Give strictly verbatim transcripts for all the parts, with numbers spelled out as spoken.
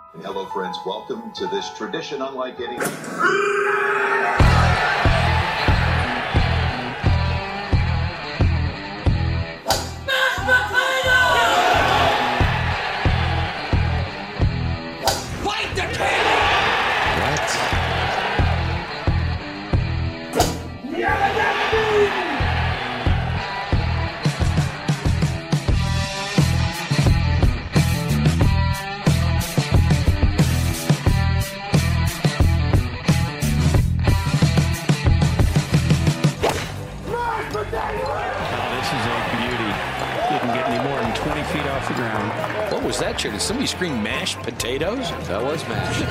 Hello, friends. Welcome to this tradition unlike any. What was that, Chair? Did somebody scream mashed potatoes? That was mashed.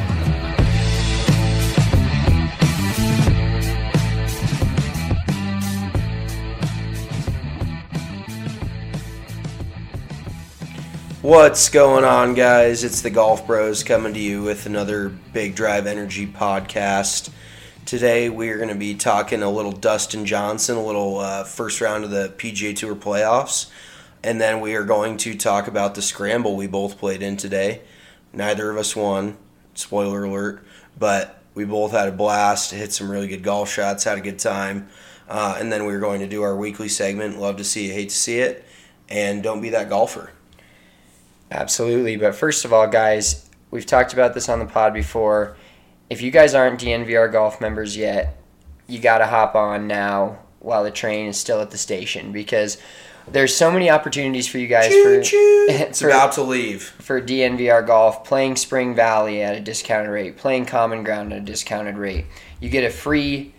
What's going on, guys? It's the Golf Bros coming to you with another Big Drive Energy podcast. Today we are going to be talking a little Dustin Johnson, a little uh, first round of the P G A Tour playoffs. And then we are going to talk about the scramble we both played in today. Neither of us won, spoiler alert, but we both had a blast, hit some really good golf shots, had a good time. Uh, and then we are going to do our weekly segment, Love to See It, Hate to See It, and Don't Be That Golfer. Absolutely, but first of all, guys, we've talked about this on the pod before. If you guys aren't D N V R Golf members yet, you got to hop on now while the train is still at the station, because there's so many opportunities for you guys choo, for, choo. It's for about to leave. For D N V R Golf, playing Spring Valley at a discounted rate, playing Common Ground at a discounted rate. You get a free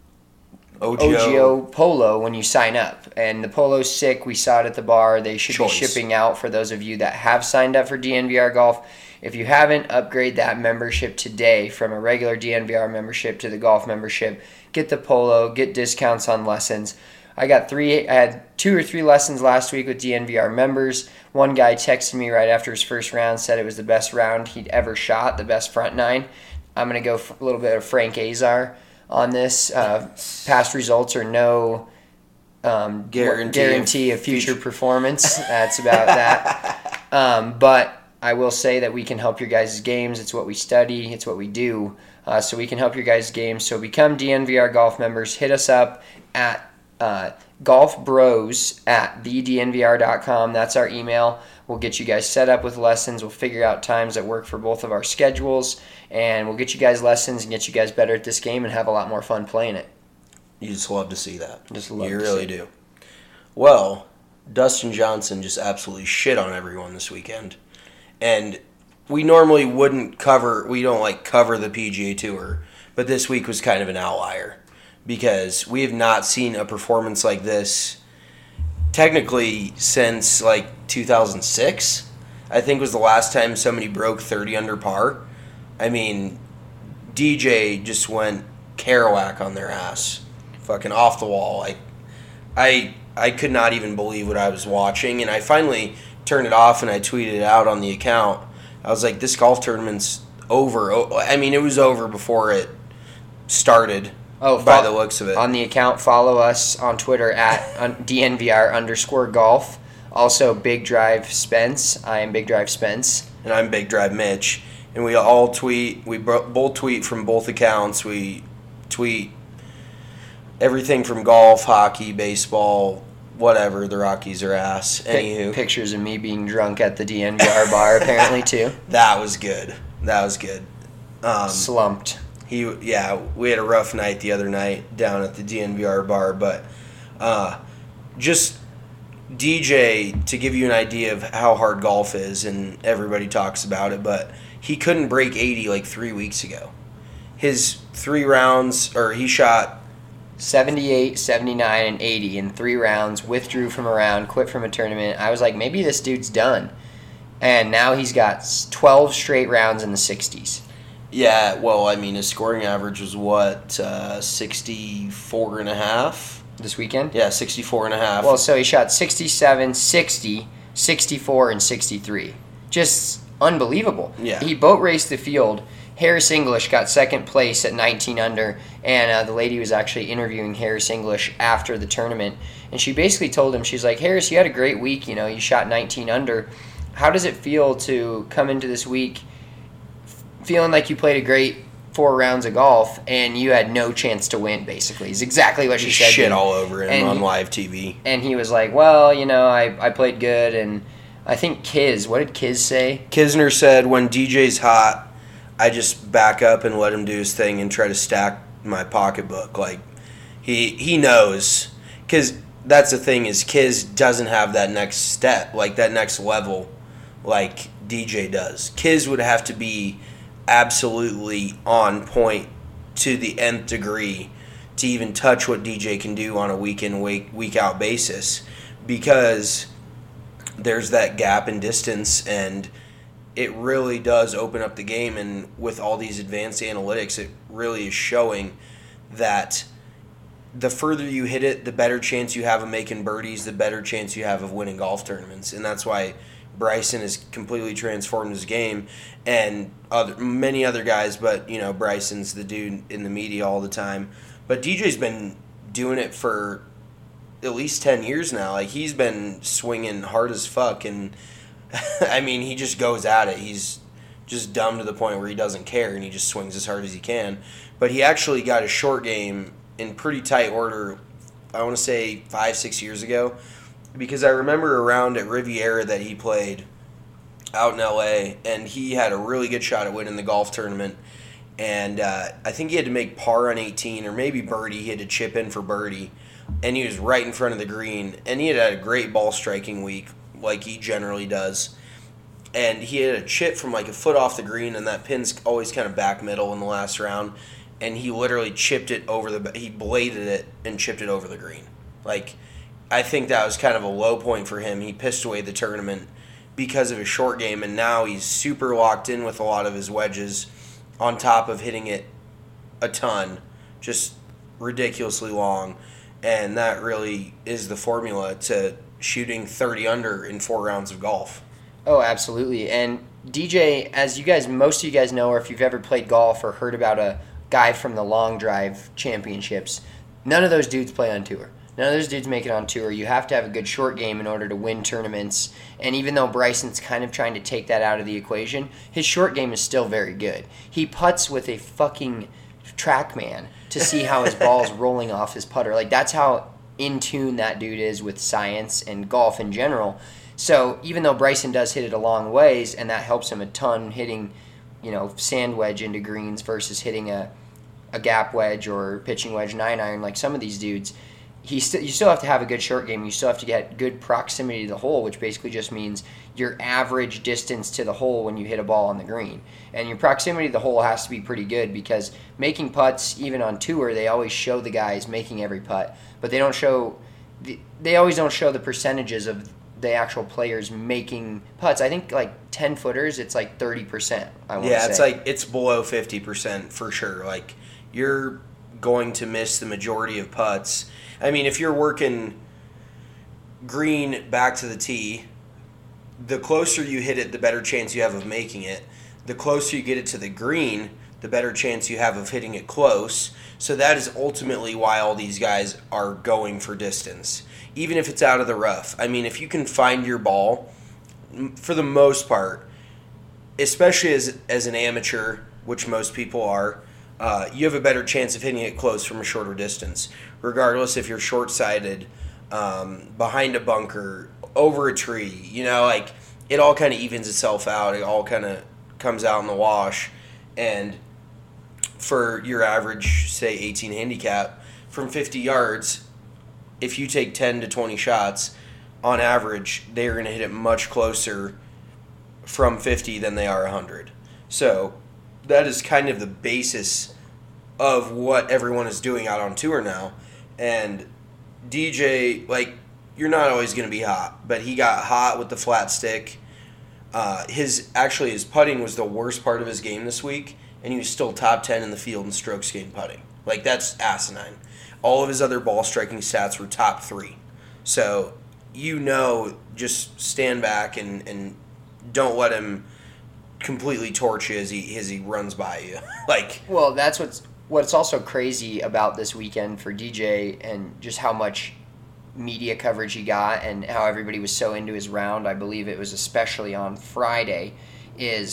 O G O, O G O polo when you sign up. And the polo's sick. We saw it at the bar. They should Choice. be shipping out for those of you that have signed up for D N V R Golf. If you haven't, upgrade that membership today from a regular D N V R membership to the golf membership. Get the polo, get discounts on lessons. I got three, I had two or three lessons last week with D N V R members. One guy texted me right after his first round, said it was the best round he'd ever shot, the best front nine. I'm going to go for a little bit of Frank Azar on this. Uh, past results are no um, guarantee, guarantee of future performance. That's about that. Um, but I will say that we can help your guys' games. It's what we study. It's what we do. Uh, so we can help your guys' games. So become D N V R Golf members. Hit us up at Uh, golf bros at the d n v r dot com. That's our email. We'll get you guys set up with lessons. We'll figure out times that work for both of our schedules, and we'll get you guys lessons and get you guys better at this game and have a lot more fun playing it. You just love to see that. Just love you to really see do. Well, Dustin Johnson just absolutely shit on everyone this weekend. And we normally wouldn't cover, we don't like cover the P G A Tour, but this week was kind of an outlier, because we have not seen a performance like this technically since like two thousand six, I think was the last time somebody broke thirty under par. I mean, D J just went Kerouac on their ass. Fucking off the wall. Like, I I could not even believe what I was watching, and I finally turned it off and I tweeted it out on the account. I was like, this golf tournament's over. I mean, it was over before it started. Oh, by the looks of it. On the account, follow us on Twitter at D N V R underscore golf. Also, Big Drive Spence. I am Big Drive Spence. And I'm Big Drive Mitch. And we all tweet. We both tweet from both accounts. We tweet everything from golf, hockey, baseball, whatever. The Rockies are ass. Anywho. Pictures of me being drunk at the D N V R bar, apparently, too. That was good. That was good. Um, Slumped. He, yeah, we had a rough night the other night down at the D N V R bar, but uh, just D J, to give you an idea of how hard golf is, and everybody talks about it, but he couldn't break eighty like three weeks ago. His three rounds, or he shot seventy-eight, seventy-nine, and eighty in three rounds, withdrew from a round, quit from a tournament. I was like, maybe this dude's done. And now he's got twelve straight rounds in the sixties. Yeah, well, I mean, his scoring average was what, uh, sixty-four and a half? This weekend? Yeah, sixty-four and a half. Well, so he shot sixty-seven, sixty, sixty-four, and sixty-three. Just unbelievable. Yeah. He boat raced the field. Harris English got second place at nineteen under, and uh, the lady was actually interviewing Harris English after the tournament, and she basically told him, she's like, Harris, you had a great week, you know, you shot nineteen under. How does it feel to come into this week feeling like you played a great four rounds of golf and you had no chance to win, basically, is exactly what she said. Shit all over him and on he, live T V. And he was like, well, you know, I, I played good, and I think Kiz, what did Kiz say? Kisner said, when D J's hot, I just back up and let him do his thing and try to stack my pocketbook. Like, he he knows. Because that's the thing is Kiz doesn't have that next step, like that next level like D J does. Kiz would have to be absolutely on point to the nth degree to even touch what D J can do on a week in, week, week out basis, because there's that gap in distance, and it really does open up the game. And with all these advanced analytics, it really is showing that the further you hit it, the better chance you have of making birdies, the better chance you have of winning golf tournaments. And that's why Bryson has completely transformed his game, and other many other guys, but you know Bryson's the dude in the media all the time. But D J's been doing it for at least ten years now. Like, he's been swinging hard as fuck, and I mean, he just goes at it. He's just dumb to the point where he doesn't care, and he just swings as hard as he can. But he actually got his short game in pretty tight order, I want to say five, six years ago, because I remember around at Riviera that he played out in L A, and he had a really good shot at winning the golf tournament. And uh, I think he had to make par on eighteen, or maybe birdie. He had to chip in for birdie, and he was right in front of the green. And he had had a great ball striking week, like he generally does. And he had a chip from like a foot off the green, and that pin's always kind of back middle in the last round. And he literally chipped it over the, he bladed it and chipped it over the green. Like, I think that was kind of a low point for him. He pissed away the tournament because of his short game, and now he's super locked in with a lot of his wedges, on top of hitting it a ton, just ridiculously long. And that really is the formula to shooting thirty under in four rounds of golf. Oh, absolutely. And D J, as you guys, most of you guys know, or if you've ever played golf or heard about a guy from the Long Drive Championships, none of those dudes play on tour. None of those dudes make it on tour. You have to have a good short game in order to win tournaments. And even though Bryson's kind of trying to take that out of the equation, his short game is still very good. He putts with a fucking TrackMan to see how his ball's rolling off his putter. Like, that's how in tune that dude is with science and golf in general. So even though Bryson does hit it a long ways, and that helps him a ton hitting, you know, sand wedge into greens versus hitting a, a gap wedge or pitching wedge nine iron like some of these dudes, he st- you still have to have a good short game. You still have to get good proximity to the hole, which basically just means your average distance to the hole when you hit a ball on the green. And your proximity to the hole has to be pretty good, because making putts, even on tour, they always show the guys making every putt, but they don't show the, they always don't show the percentages of the actual players making putts. I think like ten footers, it's like thirty percent. I want yeah, to say. it's like it's below fifty percent for sure. Like, you're going to miss the majority of putts. I mean, if you're working green back to the tee, the closer you hit it, the better chance you have of making it. The closer you get it to the green, the better chance you have of hitting it close. So that is ultimately why all these guys are going for distance, even if it's out of the rough. I mean, if you can find your ball, for the most part, especially as as an amateur, which most people are, uh, you have a better chance of hitting it close from a shorter distance, regardless if you're short-sighted, um, behind a bunker, over a tree. You know, like, it all kind of evens itself out. It all kind of comes out in the wash. And for your average, say, eighteen handicap, from fifty yards, if you take ten to twenty shots, on average, they're going to hit it much closer from fifty than they are one hundred. So that is kind of the basis of what everyone is doing out on tour now. And D J, like, you're not always going to be hot, but he got hot with the flat stick. Uh, his actually, his putting was the worst part of his game this week, and he was still top ten in the field in strokes gained putting. Like, that's asinine. All of his other ball striking stats were top three. So, you know, just stand back and, and don't let him completely torch you as he as he runs by you. Like, well, that's what's what's also crazy about this weekend for D J, and just how much media coverage he got and how everybody was so into his round. I believe it was especially on Friday, is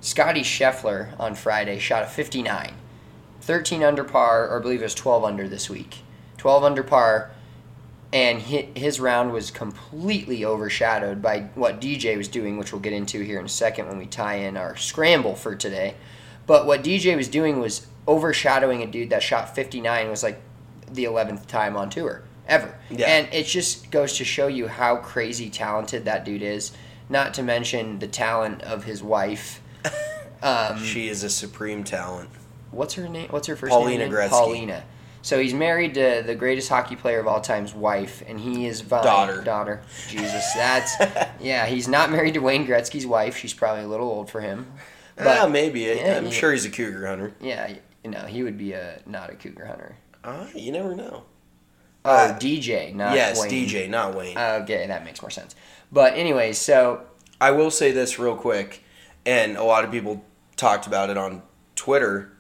Scotty Scheffler on Friday shot a fifty-nine. thirteen under par, or I believe it was twelve under this week. twelve under par, and his round was completely overshadowed by what D J was doing, which we'll get into here in a second when we tie in our scramble for today. But what D J was doing was overshadowing a dude that shot fifty-nine, was like the eleventh time on tour ever. Yeah. And it just goes to show you how crazy talented that dude is, not to mention the talent of his wife. Um, she is a supreme talent. What's her name? What's her first Paulina name? Gretzky. Paulina. So he's married to the greatest hockey player of all time's wife, and he is vying, daughter. Daughter. Jesus, that's yeah. He's not married to Wayne Gretzky's wife. She's probably a little old for him. But uh, maybe. Yeah, I'm yeah. sure he's a cougar hunter. Yeah, you know, he would be a not a cougar hunter. Uh, you never know. Oh, uh, D J, not yes, Wayne. Yes, D J, not Wayne. Okay, that makes more sense. But anyway, so I will say this real quick, and a lot of people talked about it on Twitter.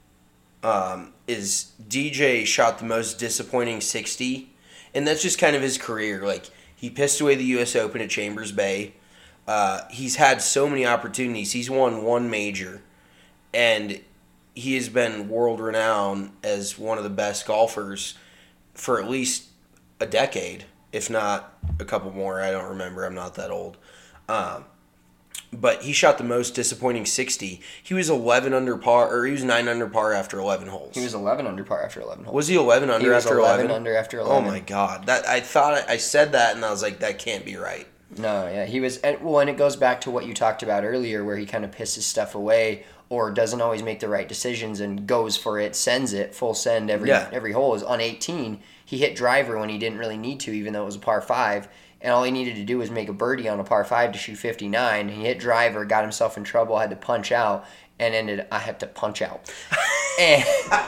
Um, is D J shot the most disappointing sixty, and that's just kind of his career. Like, he pissed away the U S Open at Chambers Bay. Uh, he's had so many opportunities. He's won one major, and he has been world renowned as one of the best golfers for at least a decade, if not a couple more. I don't remember. I'm not that old. Um, but he shot the most disappointing sixty. He was eleven under par, or he was nine under par after eleven holes. He was eleven under par after eleven holes. Was he eleven under he was after eleven? eleven under after eleven. Oh my god! That I thought I said that, and I was like, that can't be right. No, yeah, he was. And, well, and it goes back to what you talked about earlier, where he kind of pisses stuff away or doesn't always make the right decisions and goes for it, sends it full send every yeah. every hole. Is on eighteen, he hit driver when he didn't really need to, even though it was a par five. And all he needed to do was make a birdie on a par five to shoot fifty-nine. He hit driver, got himself in trouble, had to punch out, and ended. I had to punch out, and,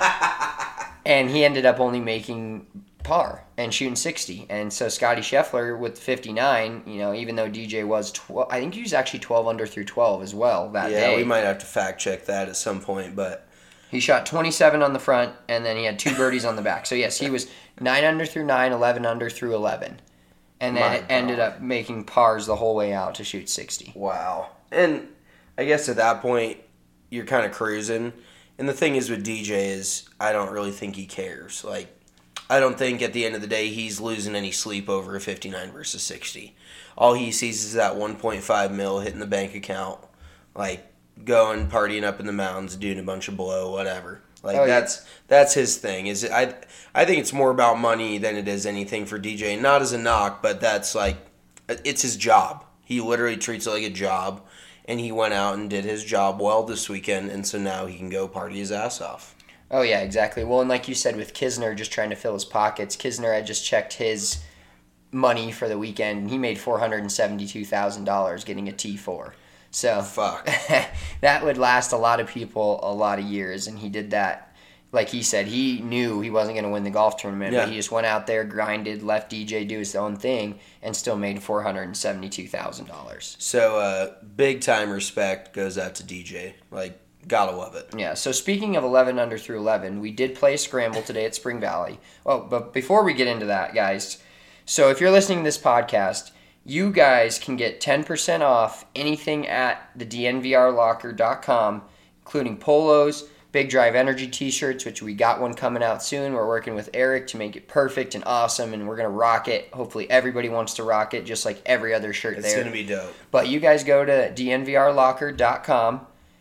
and he ended up only making par and shooting sixty. And so Scotty Scheffler with fifty-nine, you know, even though D J was twelve, I think he was actually twelve under through twelve as well that yeah, day. Yeah, we might have to fact check that at some point, but he shot twenty-seven on the front, and then he had two birdies on the back. So yes, he was nine under through nine, eleven under through eleven. And then it ended up making pars the whole way out to shoot sixty. Wow. And I guess at that point, you're kind of cruising. And the thing is with D J is I don't really think he cares. Like, I don't think at the end of the day he's losing any sleep over a fifty-nine versus sixty. All he sees is that one point five mil hitting the bank account. Like, going, partying up in the mountains, doing a bunch of blow, whatever. Like, oh, that's yeah. that's his thing. Is it, I I think it's more about money than it is anything for D J. Not as a knock, but that's like, it's his job. He literally treats it like a job, and he went out and did his job well this weekend, and so now he can go party his ass off. Oh, yeah, exactly. Well, and like you said, with Kisner just trying to fill his pockets, Kisner had just checked his money for the weekend, and he made four hundred seventy-two thousand dollars getting a T four. So fuck, that would last a lot of people a lot of years, and he did that. Like he said, he knew he wasn't going to win the golf tournament, yeah. but he just went out there, grinded, let D J do his own thing, and still made four hundred seventy-two thousand dollars. So uh, big time respect goes out to D J. Like, gotta love it. Yeah, so speaking of eleven under through eleven, we did play a scramble today at Spring Valley. Well, but before we get into that, guys, so if you're listening to this podcast, you guys can get ten percent off anything at the D N V R locker dot com, including polos, Big Drive Energy t-shirts, which we got one coming out soon. We're working with Eric to make it perfect and awesome, and we're going to rock it. Hopefully everybody wants to rock it, just like every other shirt it's there. It's going to be dope. But you guys go to D N V R locker dot com.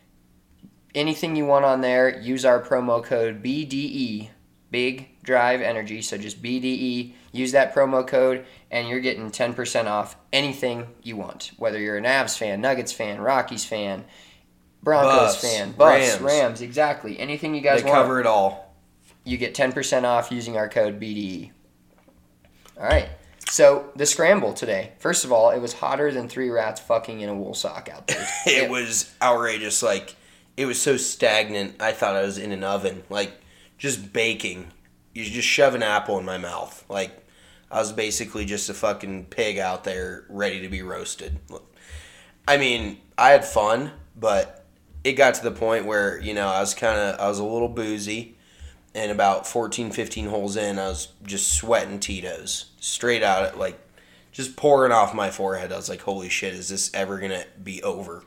Anything you want on there, use our promo code B D E, Big Drive Energy, so just B D E. Use that promo code, and you're getting ten percent off anything you want. Whether you're an Avs fan, Nuggets fan, Rockies fan, Broncos Buffs, fan, Buffs, Rams. Rams, exactly. Anything you guys they want. They cover it all. You get ten percent off using our code B D E. All right. So, the scramble today. First of all, it was hotter than three rats fucking in a wool sock out there. it yeah. was outrageous. Like, it was so stagnant, I thought I was in an oven. Like, just baking. You just shove an apple in my mouth. Like, I was basically just a fucking pig out there ready to be roasted. I mean, I had fun, but it got to the point where, you know, I was kind of, I was a little boozy, and about fourteen, fifteen holes in, I was just sweating Tito's straight out, like, just pouring off my forehead. I was like, holy shit, is this ever going to be over?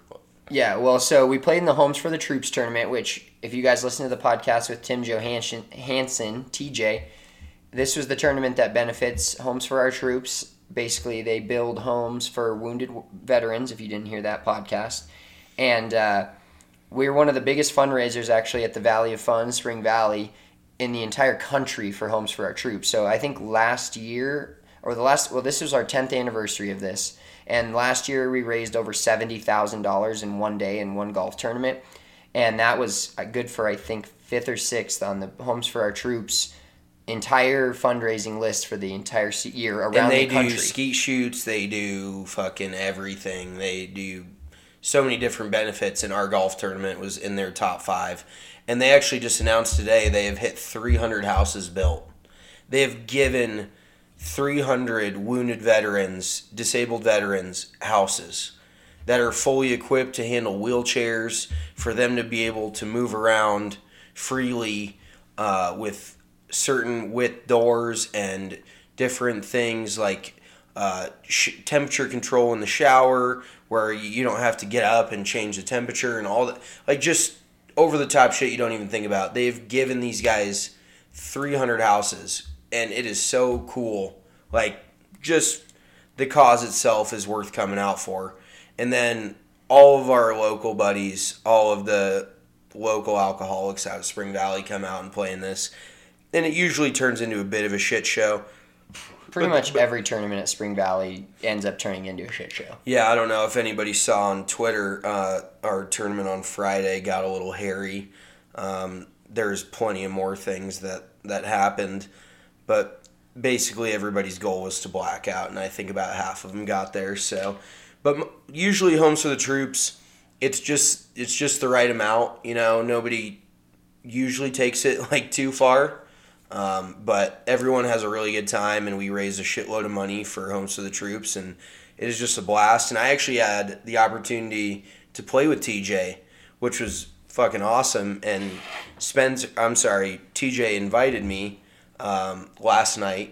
Yeah, well, so we played in the Homes for the Troops tournament, which, if you guys listen to the podcast with Tim Johansson, Hansen, T J, this was the tournament that benefits Homes for Our Troops. Basically, they build homes for wounded veterans, if you didn't hear that podcast. And uh, we're one of the biggest fundraisers, actually, at the Valley of Fun, Spring Valley, in the entire country for Homes for Our Troops. So I think last year, or the last, well, this was our tenth anniversary of this. And last year we raised over seventy thousand dollars in one day in one golf tournament. And that was good for, I think, fifth or sixth on the Homes for Our Troops entire fundraising list for the entire year around and they the country. do skeet shoots, they do fucking everything. They do so many different benefits, and our golf tournament was in their top five. And they actually just announced today they have hit three hundred houses built. They have given three hundred wounded veterans, disabled veterans, houses that are fully equipped to handle wheelchairs, for them to be able to move around freely uh, with certain width doors and different things like uh, sh- temperature control in the shower, where you don't have to get up and change the temperature and all that. Like, just over-the-top shit you don't even think about. They've given these guys three hundred houses, and it is so cool. Like, just the cause itself is worth coming out for. And then all of our local buddies, all of the local alcoholics out of Spring Valley come out and play in this. And it usually turns into a bit of a shit show. Pretty But- much but- every tournament at Spring Valley ends up turning into a shit show. Yeah, I don't know if anybody saw on Twitter, uh, our tournament on Friday got a little hairy. Um, there's plenty of more things that, that happened. But basically everybody's goal was to black out, and I think about half of them got there. So, But m- usually Homes for the Troops, it's just it's just the right amount. You know, nobody usually takes it like too far. Um, but everyone has a really good time, and we raise a shitload of money for Homes for the Troops, and it is just a blast. And I actually had the opportunity to play with T J, which was fucking awesome. And Spencer, I'm sorry, T J invited me um, last night.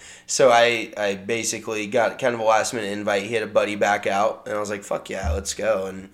So I, I basically got kind of a last minute invite. He had a buddy back out, and I was like, fuck yeah, let's go. And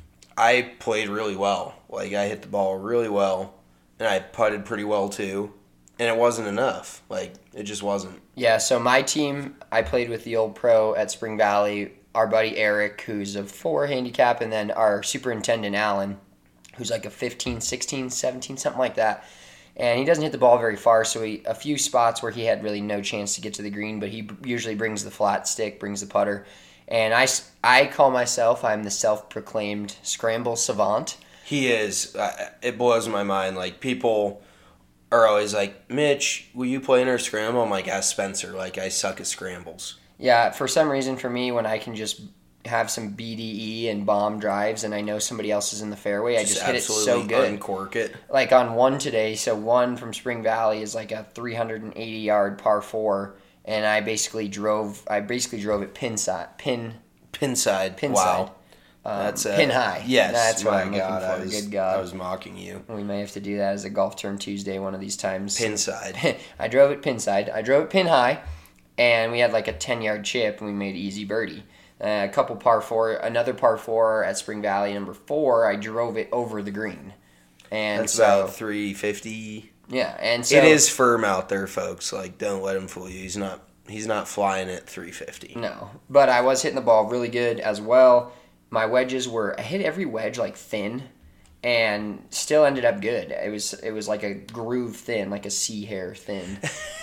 I played really well. Like, I hit the ball really well, and I putted pretty well too. And it wasn't enough. Like, it just wasn't. Yeah, so my team, I played with the old pro at Spring Valley, our buddy Eric, who's a four handicap, and then our superintendent, Alan, who's like a fifteen, sixteen, seventeen, something like that. And he doesn't hit the ball very far, so he, a few spots where he had really no chance to get to the green, but he usually brings the flat stick, brings the putter. And I, I call myself, I'm the self-proclaimed scramble savant. He is. Uh, it blows my mind. Like, people are always like, Mitch, will you play in our scramble? I'm like, ask Spencer. Like, I suck at scrambles. Yeah, for some reason for me, when I can just have some B D E and bomb drives and I know somebody else is in the fairway, I just hit it so good. Uncork it. Like on one today, so one from Spring Valley is like a three hundred eighty yard par four, and I basically drove, I basically drove it pin side, pin, Pin side. pin wow. side. Um, That's uh, pin high. Yes. That's what my I'm God, looking for. I was, Good God. I was mocking you. We may have to do that as a golf turn Tuesday one of these times. Pin side. I drove it pin side. I drove it pin high, and we had like a ten yard chip, and we made easy birdie. Uh, a couple par four, another par four at Spring Valley, number four, I drove it over the green. And That's so, about three fifty. yeah, and so It is firm out there, folks. Like, don't let him fool you. He's not. He's not flying at three fifty. No, but I was hitting the ball really good as well. My wedges were, I hit every wedge like thin, and still ended up good. It was it was like a groove thin, like a sea hair thin,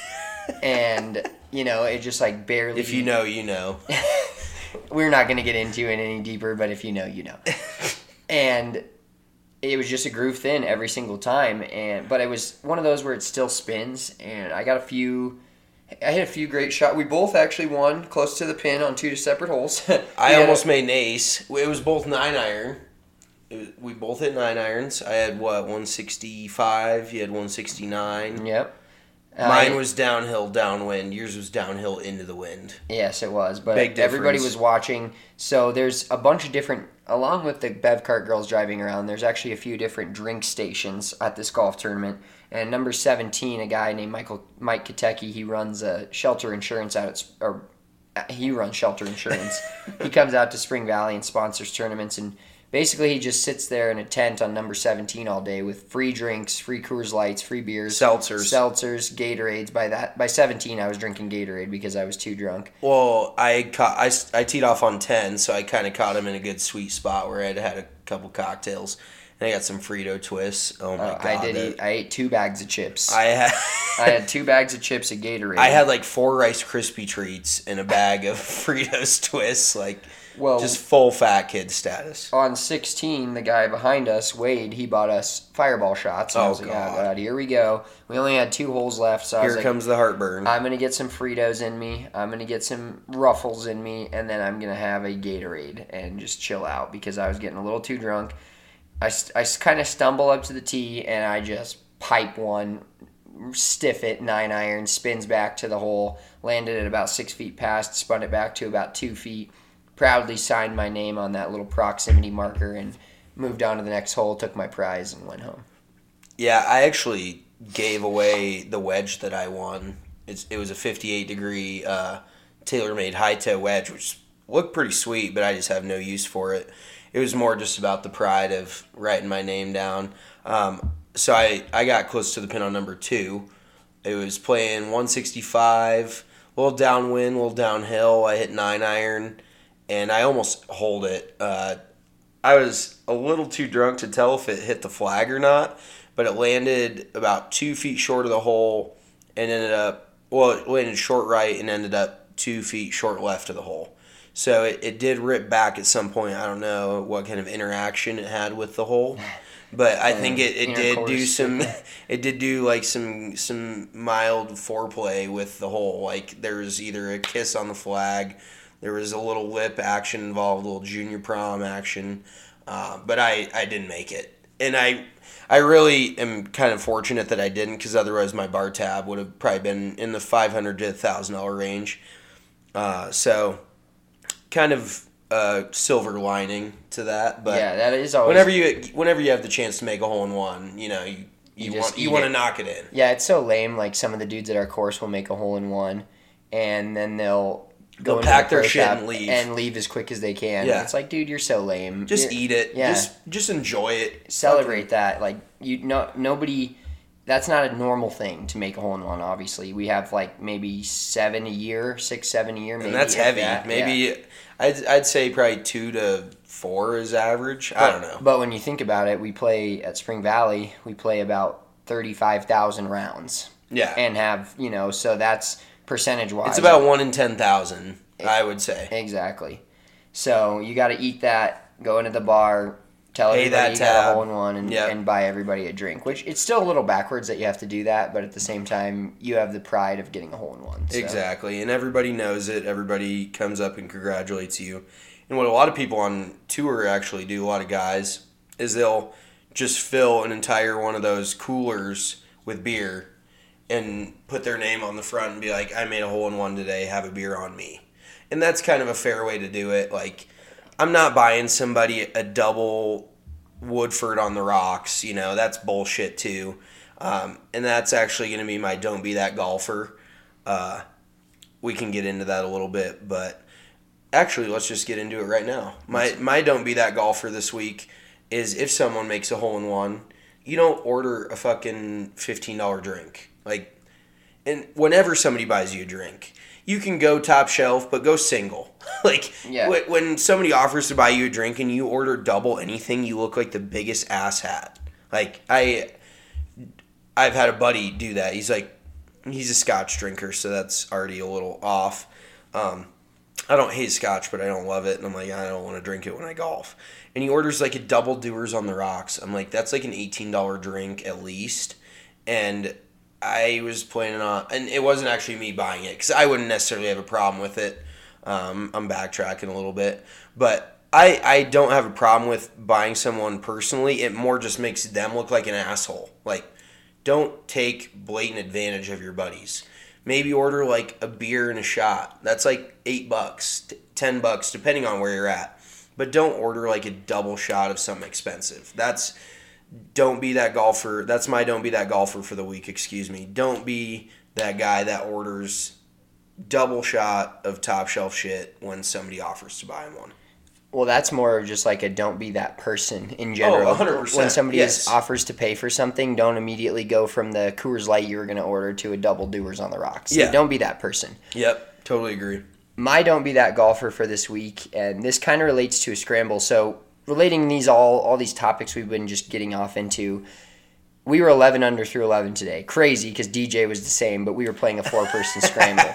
and you know it just like barely. If you know, you know. We're not going to get into it any deeper, but if you know, you know. And it was just a groove thin every single time, and but it was one of those where it still spins, and I got a few. I hit a few great shots. We both actually won close to the pin on two separate holes. I had almost a- made an ace. It was both nine iron. It was, we both hit nine irons. I had, what, one sixty-five? You had one sixty-nine. Yep. Mine I- was downhill, downwind. Yours was downhill into the wind. Yes, it was. But Big everybody difference. was watching. So there's a bunch of different, along with the Bev Cart girls driving around, there's actually a few different drink stations at this golf tournament. And number seventeen, a guy named Michael Mike Katecki, he runs a shelter insurance out at, or uh, he runs shelter insurance. He comes out to Spring Valley and sponsors tournaments. And basically he just sits there in a tent on number seventeen all day with free drinks, free Coors Lights, free beers, Seltzers. seltzers, Gatorades. By that, by seventeen, I was drinking Gatorade because I was too drunk. Well, I caught, I, I teed off on ten, so I kind of caught him in a good sweet spot where I had had a couple cocktails. And I got some Frito twists. Oh, my Uh, God. I did that- eat. I ate two bags of chips. I had... I had two bags of chips of Gatorade. I had like four Rice Krispie treats and a bag of Fritos twists, like Well- just full fat kid status. On sixteen, the guy behind us, Wade, he bought us Fireball shots. And I Oh, was like, God. oh, God, here we go. We only had two holes left, so I was Here like, comes the heartburn. I'm going to get some Fritos in me. I'm going to get some Ruffles in me. And then I'm going to have a Gatorade and just chill out because I was getting a little too drunk. I, I kind of stumble up to the tee and I just pipe one, stiff it, nine iron, spins back to the hole, landed at about six feet past, spun it back to about two feet, proudly signed my name on that little proximity marker and moved on to the next hole, took my prize, and went home. Yeah, I actually gave away the wedge that I won. It's, it was a fifty-eight degree uh, TaylorMade high-toe wedge, which looked pretty sweet, but I just have no use for it. It was more just about the pride of writing my name down. Um, so I, I got close to the pin on number two. It was playing one sixty-five, a little downwind, a little downhill. I hit nine iron, and I almost holed it. Uh, I was a little too drunk to tell if it hit the flag or not, but it landed about two feet short of the hole and ended up, well, it landed short right and ended up two feet short left of the hole. So it, it did rip back at some point. I don't know what kind of interaction it had with the hole, but I think it, it did do some. It did do like some some mild foreplay with the hole. Like there was either a kiss on the flag, there was a little lip action involved, a little junior prom action, uh, but I, I didn't make it, and I I really am kind of fortunate that I didn't because otherwise my bar tab would have probably been in the five hundred to a thousand dollar range. Uh, so. Kind of uh, silver lining to that, but yeah, that is always. whenever you whenever you have the chance to make a hole in one, you know you you, You just want you eat want to it. knock it in. Yeah, it's so lame. Like some of the dudes at our course will make a hole in one, and then they'll go They'll into pack the their pro shit shop and leave. and leave as quick as they can. Yeah. It's like, dude, you're so lame. Just You're- eat it. Yeah. Just just enjoy it. Celebrate that. Like you, no, nobody. That's not a normal thing to make a hole in one. Obviously, we have like maybe seven a year, six, seven a year. Maybe And that's if heavy. that. Maybe Yeah. I'd I'd say probably two to four is average. I don't know. But when you think about it, we play at Spring Valley. We play about thirty-five thousand rounds. Yeah. And have you know, so that's percentage wise. It's about one in ten thousand. I would say. Exactly. So you got to eat that. Go into the bar. Tell Pay everybody that you got a tab. hole in one and, Yep. and buy everybody a drink. Which it's still a little backwards that you have to do that, but at the same time, you have the pride of getting a hole in one. So. Exactly, and everybody knows it. Everybody comes up and congratulates you. And what a lot of people on tour actually do, a lot of guys, is they'll just fill an entire one of those coolers with beer and put their name on the front and be like, I made a hole in one today, have a beer on me. And that's kind of a fair way to do it. Like, I'm not buying somebody a double Woodford on the rocks, you know, that's bullshit too. Um, and that's actually going to be my don't be that golfer. Uh, we can get into that a little bit, but actually let's just get into it right now. My my don't be that golfer this week is if someone makes a hole in one, you don't order a fucking fifteen dollar drink. Like, and whenever somebody buys you a drink, you can go top shelf, but go single. Like, Yeah. wh- when somebody offers to buy you a drink and you order double anything, you look like the biggest asshat. Like, I, I've had a buddy do that. He's like, he's a scotch drinker, so that's already a little off. Um, I don't hate scotch, but I don't love it, and I'm like, I don't want to drink it when I golf. And he orders like a double Doers on the rocks. I'm like, that's like an eighteen dollar drink at least. And I was planning on, and it wasn't actually me buying it, because I wouldn't necessarily have a problem with it. Um, I'm backtracking a little bit. But I, I don't have a problem with buying someone personally. It more just makes them look like an asshole. Like, don't take blatant advantage of your buddies. Maybe order like a beer and a shot. That's like eight bucks, t- ten bucks, depending on where you're at. But don't order like a double shot of something expensive. That's, don't be that golfer. That's my don't be that golfer for the week, excuse me. Don't be that guy that orders double shot of top shelf shit when somebody offers to buy him one. Well, that's more of just like a don't be that person in general. Oh, one hundred percent. When somebody yes. is, offers to pay for something, don't immediately go from the Coors Light you were going to order to a double doers on the rocks. Yeah. Don't be that person. Yep, totally agree. My don't be that golfer for this week, and this kind of relates to a scramble. So relating these all, all these topics we've been just getting off into, we were eleven under through eleven today. Crazy because D J was the same, but we were playing a four-person scramble.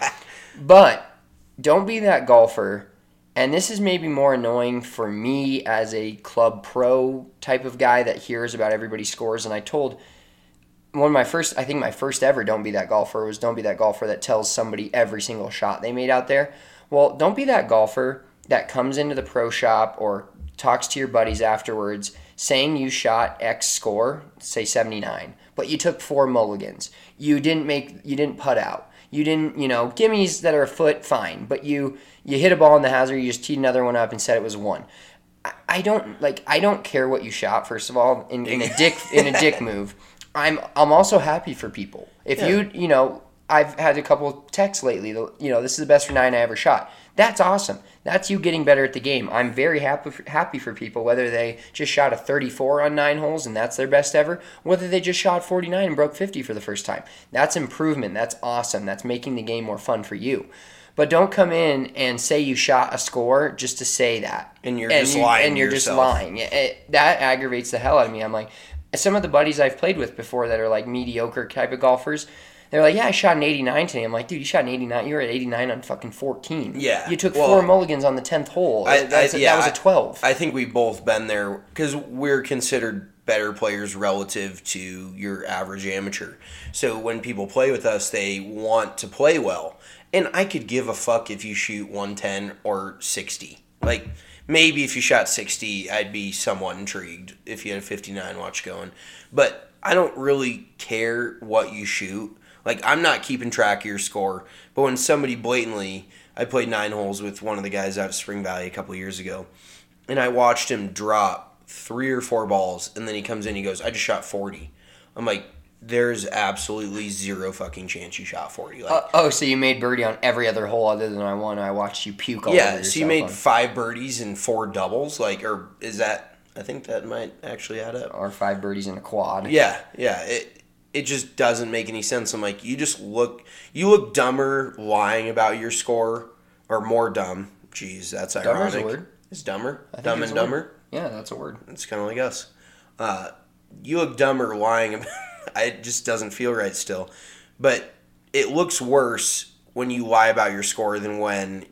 But don't be that golfer. And this is maybe more annoying for me as a club pro type of guy that hears about everybody's scores. And I told one of my first, I think my first ever don't be that golfer was don't be that golfer that tells somebody every single shot they made out there. Well, don't be that golfer that comes into the pro shop or talks to your buddies afterwards saying you shot X score, say seventy-nine, but you took four mulligans. You didn't make, you didn't putt out. You didn't, you know, gimmies that are a foot, fine. But you you hit a ball in the hazard, you just teed another one up and said it was one. I, I don't like. I don't care what you shot. First of all, in, in a dick in a dick move, I'm I'm also happy for people. If Yeah. you you know, I've had a couple texts lately. You know, this is the best for nine I ever shot. That's awesome. That's you getting better at the game. I'm very happy for, happy for people, whether they just shot a thirty-four on nine holes and that's their best ever, whether they just shot forty-nine and broke fifty for the first time. That's improvement. That's awesome. That's making the game more fun for you. But don't come in and say you shot a score just to say that. And you're just lying And to you're just yourself. lying. It- it- that aggravates the hell out of me. I'm like, some of the buddies I've played with before that are like mediocre type of golfers, they're like, yeah, I shot an eighty-nine today. I'm like, dude, you shot an eighty-nine. You were at eighty-nine on fucking fourteen. Yeah. You took Well, four mulligans on the tenth hole. I- That's I- a- yeah, that was a twelve. I think we've both been there because we're considered better players relative to your average amateur. So when people play with us, they want to play well. And I could give a fuck if you shoot one ten or sixty. Like, maybe if you shot sixty, I'd be somewhat intrigued if you had a fifty-nine watch going. But I don't really care what you shoot. Like, I'm not keeping track of your score. But when somebody blatantly... I played nine holes with one of the guys out of Spring Valley a couple years ago. And I watched him drop three or four balls. And then he comes in and he goes, I just shot forty. I'm like, there's absolutely zero fucking chance you shot forty. Like, Uh, oh, so you made birdie on every other hole other than I won. I watched you puke all over yeah, yourself. so you made on- five birdies and four doubles. Like, or is that... I think that might actually add up. Or five birdies in a quad. Yeah, yeah. It it just doesn't make any sense. I'm like, you just look you look dumber lying about your score, or more dumb. Jeez, that's ironic. Dumber's a word. It's dumber. I think Dumb it's and a dumber. word. Yeah, that's a word. It's kind of like us. Uh, you look dumber lying about. It just doesn't feel right still, but it looks worse when you lie about your score than when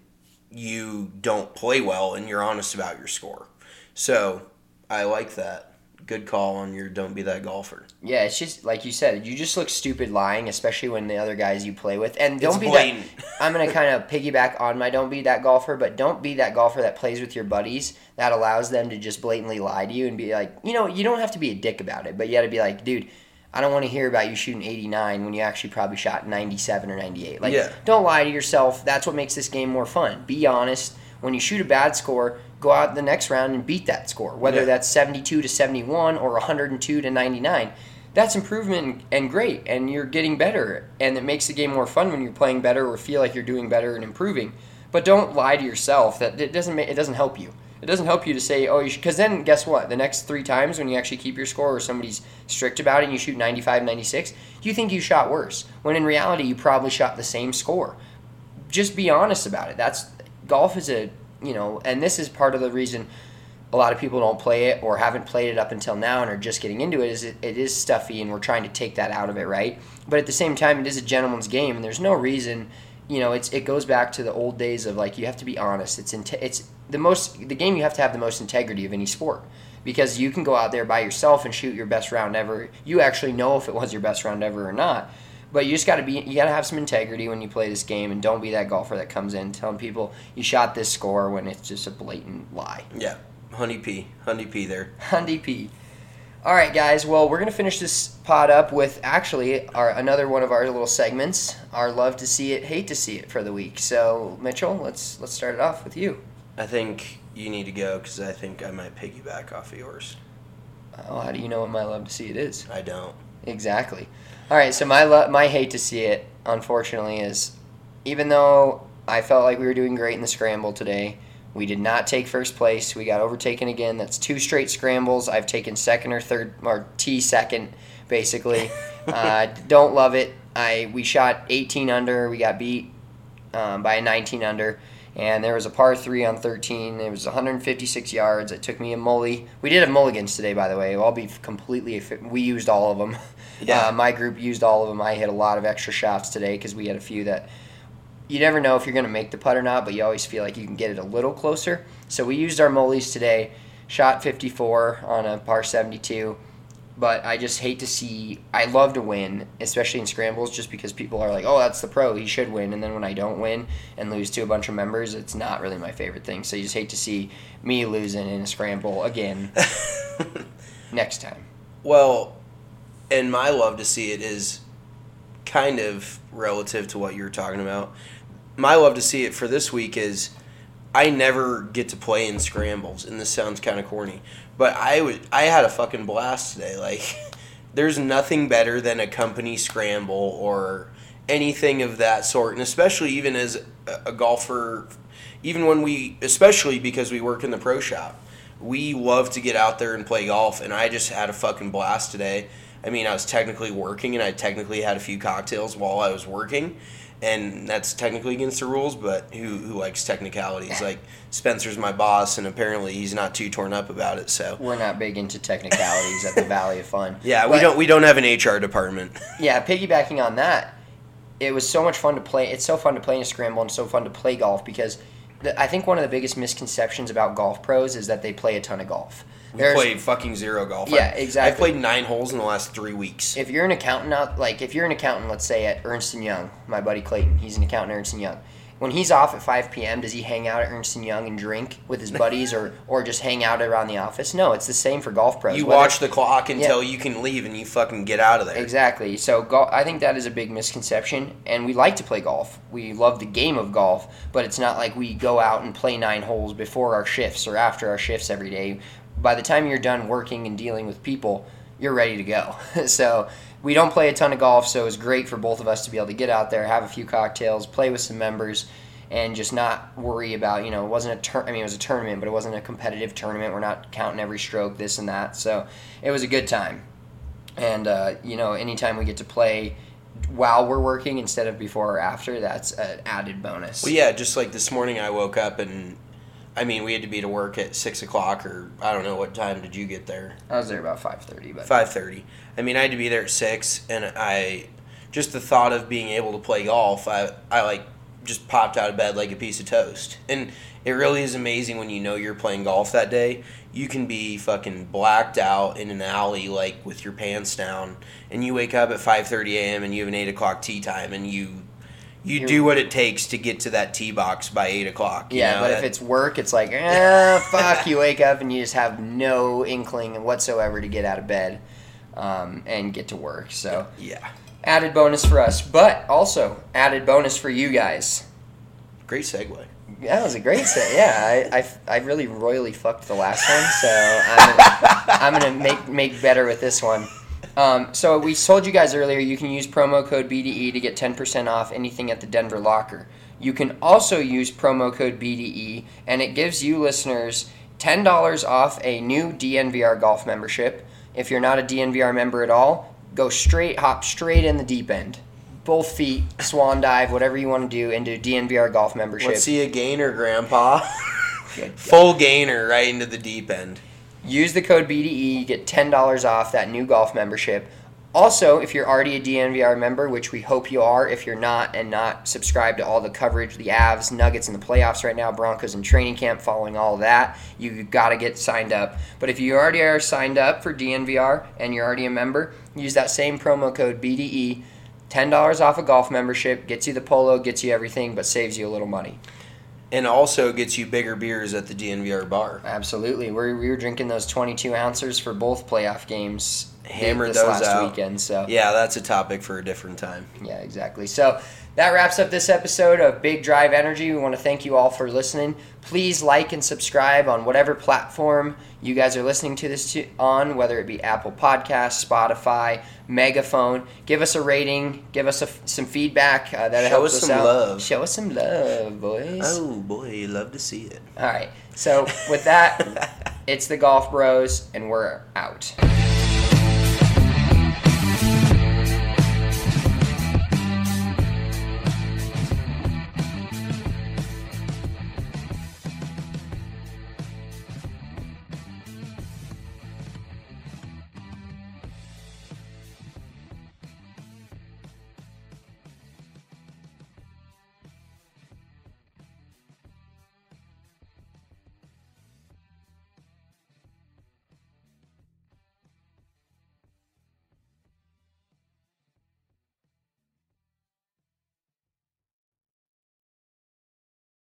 you don't play well and you're honest about your score. So I like that. Good call on your don't be that golfer. Yeah, it's just like you said. You just look stupid lying, especially when the other guys you play with. And don't It's be blatant. that. I'm gonna kind of piggyback on my don't be that golfer, but don't be that golfer that plays with your buddies that allows them to just blatantly lie to you and be like, you know, you don't have to be a dick about it, but you got to be like, dude, I don't want to hear about you shooting eighty-nine when you actually probably shot ninety-seven or ninety-eight. Like, Yeah. don't lie to yourself. That's what makes this game more fun. Be honest. When you shoot a bad score, go out the next round and beat that score, whether Yeah. that's seventy-two to seventy-one or one hundred two to ninety-nine. That's improvement and great, and you're getting better, and it makes the game more fun when you're playing better or feel like you're doing better and improving. But don't lie to yourself. That it doesn't make, it doesn't help you. It doesn't help you to say, oh, you because then guess what? The next three times when you actually keep your score or somebody's strict about it and you shoot ninety-five, ninety-six, you think you shot worse, when in reality you probably shot the same score. Just be honest about it. That's golf is a, you know, and this is part of the reason a lot of people don't play it or haven't played it up until now and are just getting into it, is it, it is stuffy and we're trying to take that out of it, right? But at the same time, it is a gentleman's game and there's no reason, you know, it's it goes back to the old days of like, you have to be honest. It's inte- it's the most, the game you have to have the most integrity of any sport, because you can go out there by yourself and shoot your best round ever. You actually know if it was your best round ever or not. But you just got to be, you got to have some integrity when you play this game, and don't be that golfer that comes in telling people you shot this score when it's just a blatant lie. Yeah, Honey P, Honey P there. Hundy P. All right, guys. Well, we're gonna finish this pod up with actually our another one of our little segments, our love to see it, hate to see it for the week. So, Mitchell, let's let's start it off with you. I think you need to go because I think I might piggyback off of yours. Oh, how do you know what my love to see it is? I don't. Exactly. All right, so my lo- my hate to see it, unfortunately, is even though I felt like we were doing great in the scramble today, We did not take first place. We got overtaken again. That's two straight scrambles. I've taken second or third, or T second, basically. uh, don't love it. I We shot eighteen under. We got beat um, by a nineteen under. And there was a par three on thirteen. It was one hundred fifty-six yards. It took me a mully. We did have mulligans today, by the way. I'll be completely. We used all of them. Yeah. Uh, my group used all of them. I hit a lot of extra shots today because we had a few that you never know if you're going to make the putt or not, but you always feel like you can get it a little closer. So we used our mullies today. Shot fifty-four on a par seventy-two. But I just hate to see. I love to win, especially in scrambles, just because people are like, "Oh, that's the pro. He should win." And then when I don't win and lose to a bunch of members, it's not really my favorite thing. So you just hate to see me losing in a scramble again next time. Well, and my love to see it is kind of relative to what you were talking about. My love to see it for this week is I never get to play in scrambles, and this sounds kind of corny, but I would I had a fucking blast today. Like, there's nothing better than a company scramble or anything of that sort, and especially even as a golfer, even when we, especially because we work in the pro shop, we love to get out there and play golf, and I just had a fucking blast today. I mean, I was technically working, and I technically had a few cocktails while I was working, and that's technically against the rules, but who who likes technicalities? Like, Spencer's my boss, and apparently he's not too torn up about it, so. We're not big into technicalities at the Valley of Fun. Yeah, but, we don't we don't have an H R department. Yeah, piggybacking on that, it was so much fun to play. It's so fun to play in a scramble and so fun to play golf because the, I think one of the biggest misconceptions about golf pros is that they play a ton of golf. We There's, played fucking zero golf. Yeah, I, exactly. I've played nine holes in the last three weeks. If you're an accountant out, like if you're an accountant, let's say at Ernst and Young, my buddy Clayton, he's an accountant at Ernst and Young. When he's off at five p.m., does he hang out at Ernst and Young and drink with his buddies or, or just hang out around the office? No, it's the same for golf pros. You Whether, watch the clock until yeah. you can leave and you fucking get out of there. Exactly. So go, I think that is a big misconception, and we like to play golf. We love the game of golf, but it's not like we go out and play nine holes before our shifts or after our shifts every day. By the time you're done working and dealing with people, you're ready to go. So we don't play a ton of golf, so it was great for both of us to be able to get out there, have a few cocktails, play with some members, and just not worry about, you know, it wasn't a tur- I mean, it was a tournament, but it wasn't a competitive tournament. We're not counting every stroke, this and that. So it was a good time. And, uh, you know, anytime we get to play while we're working instead of before or after, that's an added bonus. Well, yeah, just like this morning I woke up and, I mean, we had to be to work at six o'clock or I don't know, what time did you get there? I was there about five thirty. But five thirty. I mean, I had to be there at six, and I, just the thought of being able to play golf, I, I like, just popped out of bed like a piece of toast. And it really is amazing when you know you're playing golf that day. You can be fucking blacked out in an alley, like, with your pants down, and you wake up at five thirty a.m. and you have an eight o'clock tee time, and you you You're, do what it takes to get to that tee box by eight o'clock. You yeah, know? but that, if it's work, it's like, eh, fuck, you wake up and you just have no inkling whatsoever to get out of bed um, and get to work. So yeah. Added bonus for us, but also added bonus for you guys. Great segue. That was a great set. Yeah, I, I, I really royally fucked the last one, so I'm gonna, I'm gonna make make better with this one. Um, so we told you guys earlier you can use promo code B D E to get ten percent off anything at the Denver Locker. You can also use promo code B D E, and it gives you listeners ten dollars off a new D N V R golf membership. If you're not a D N V R member at all, go straight, hop straight in the deep end. Both feet, swan dive, whatever you want to do into D N V R golf membership. Let's see a gainer, Grandpa. Good. Full gainer right into the deep end. Use the code B D E, you get ten dollars off that new golf membership. Also, if you're already a D N V R member, which we hope you are, if you're not and not subscribed to all the coverage, the Avs, Nuggets in the playoffs right now, Broncos in training camp, following all of that, you got to get signed up. But if you already are signed up for D N V R and you're already a member, use that same promo code B D E. ten dollars off a golf membership, gets you the polo, gets you everything, but saves you a little money. And also gets you bigger beers at the D N V R bar. Absolutely. We're, we were drinking those twenty-two ounces for both playoff games hammered this those last out. weekend. So yeah, that's a topic for a different time. Yeah, exactly. So that wraps up this episode of Big Drive Energy. We want to thank you all for listening. Please like and subscribe on whatever platform you guys are listening to this to, on, whether it be Apple Podcasts, Spotify, Megaphone. Give us a rating. Give us a, some feedback. Uh, that Show helps us us some out. love. Show us some love, boys. Oh boy, you love to see it. All right. So with that, it's the Golf Bros, and we're out.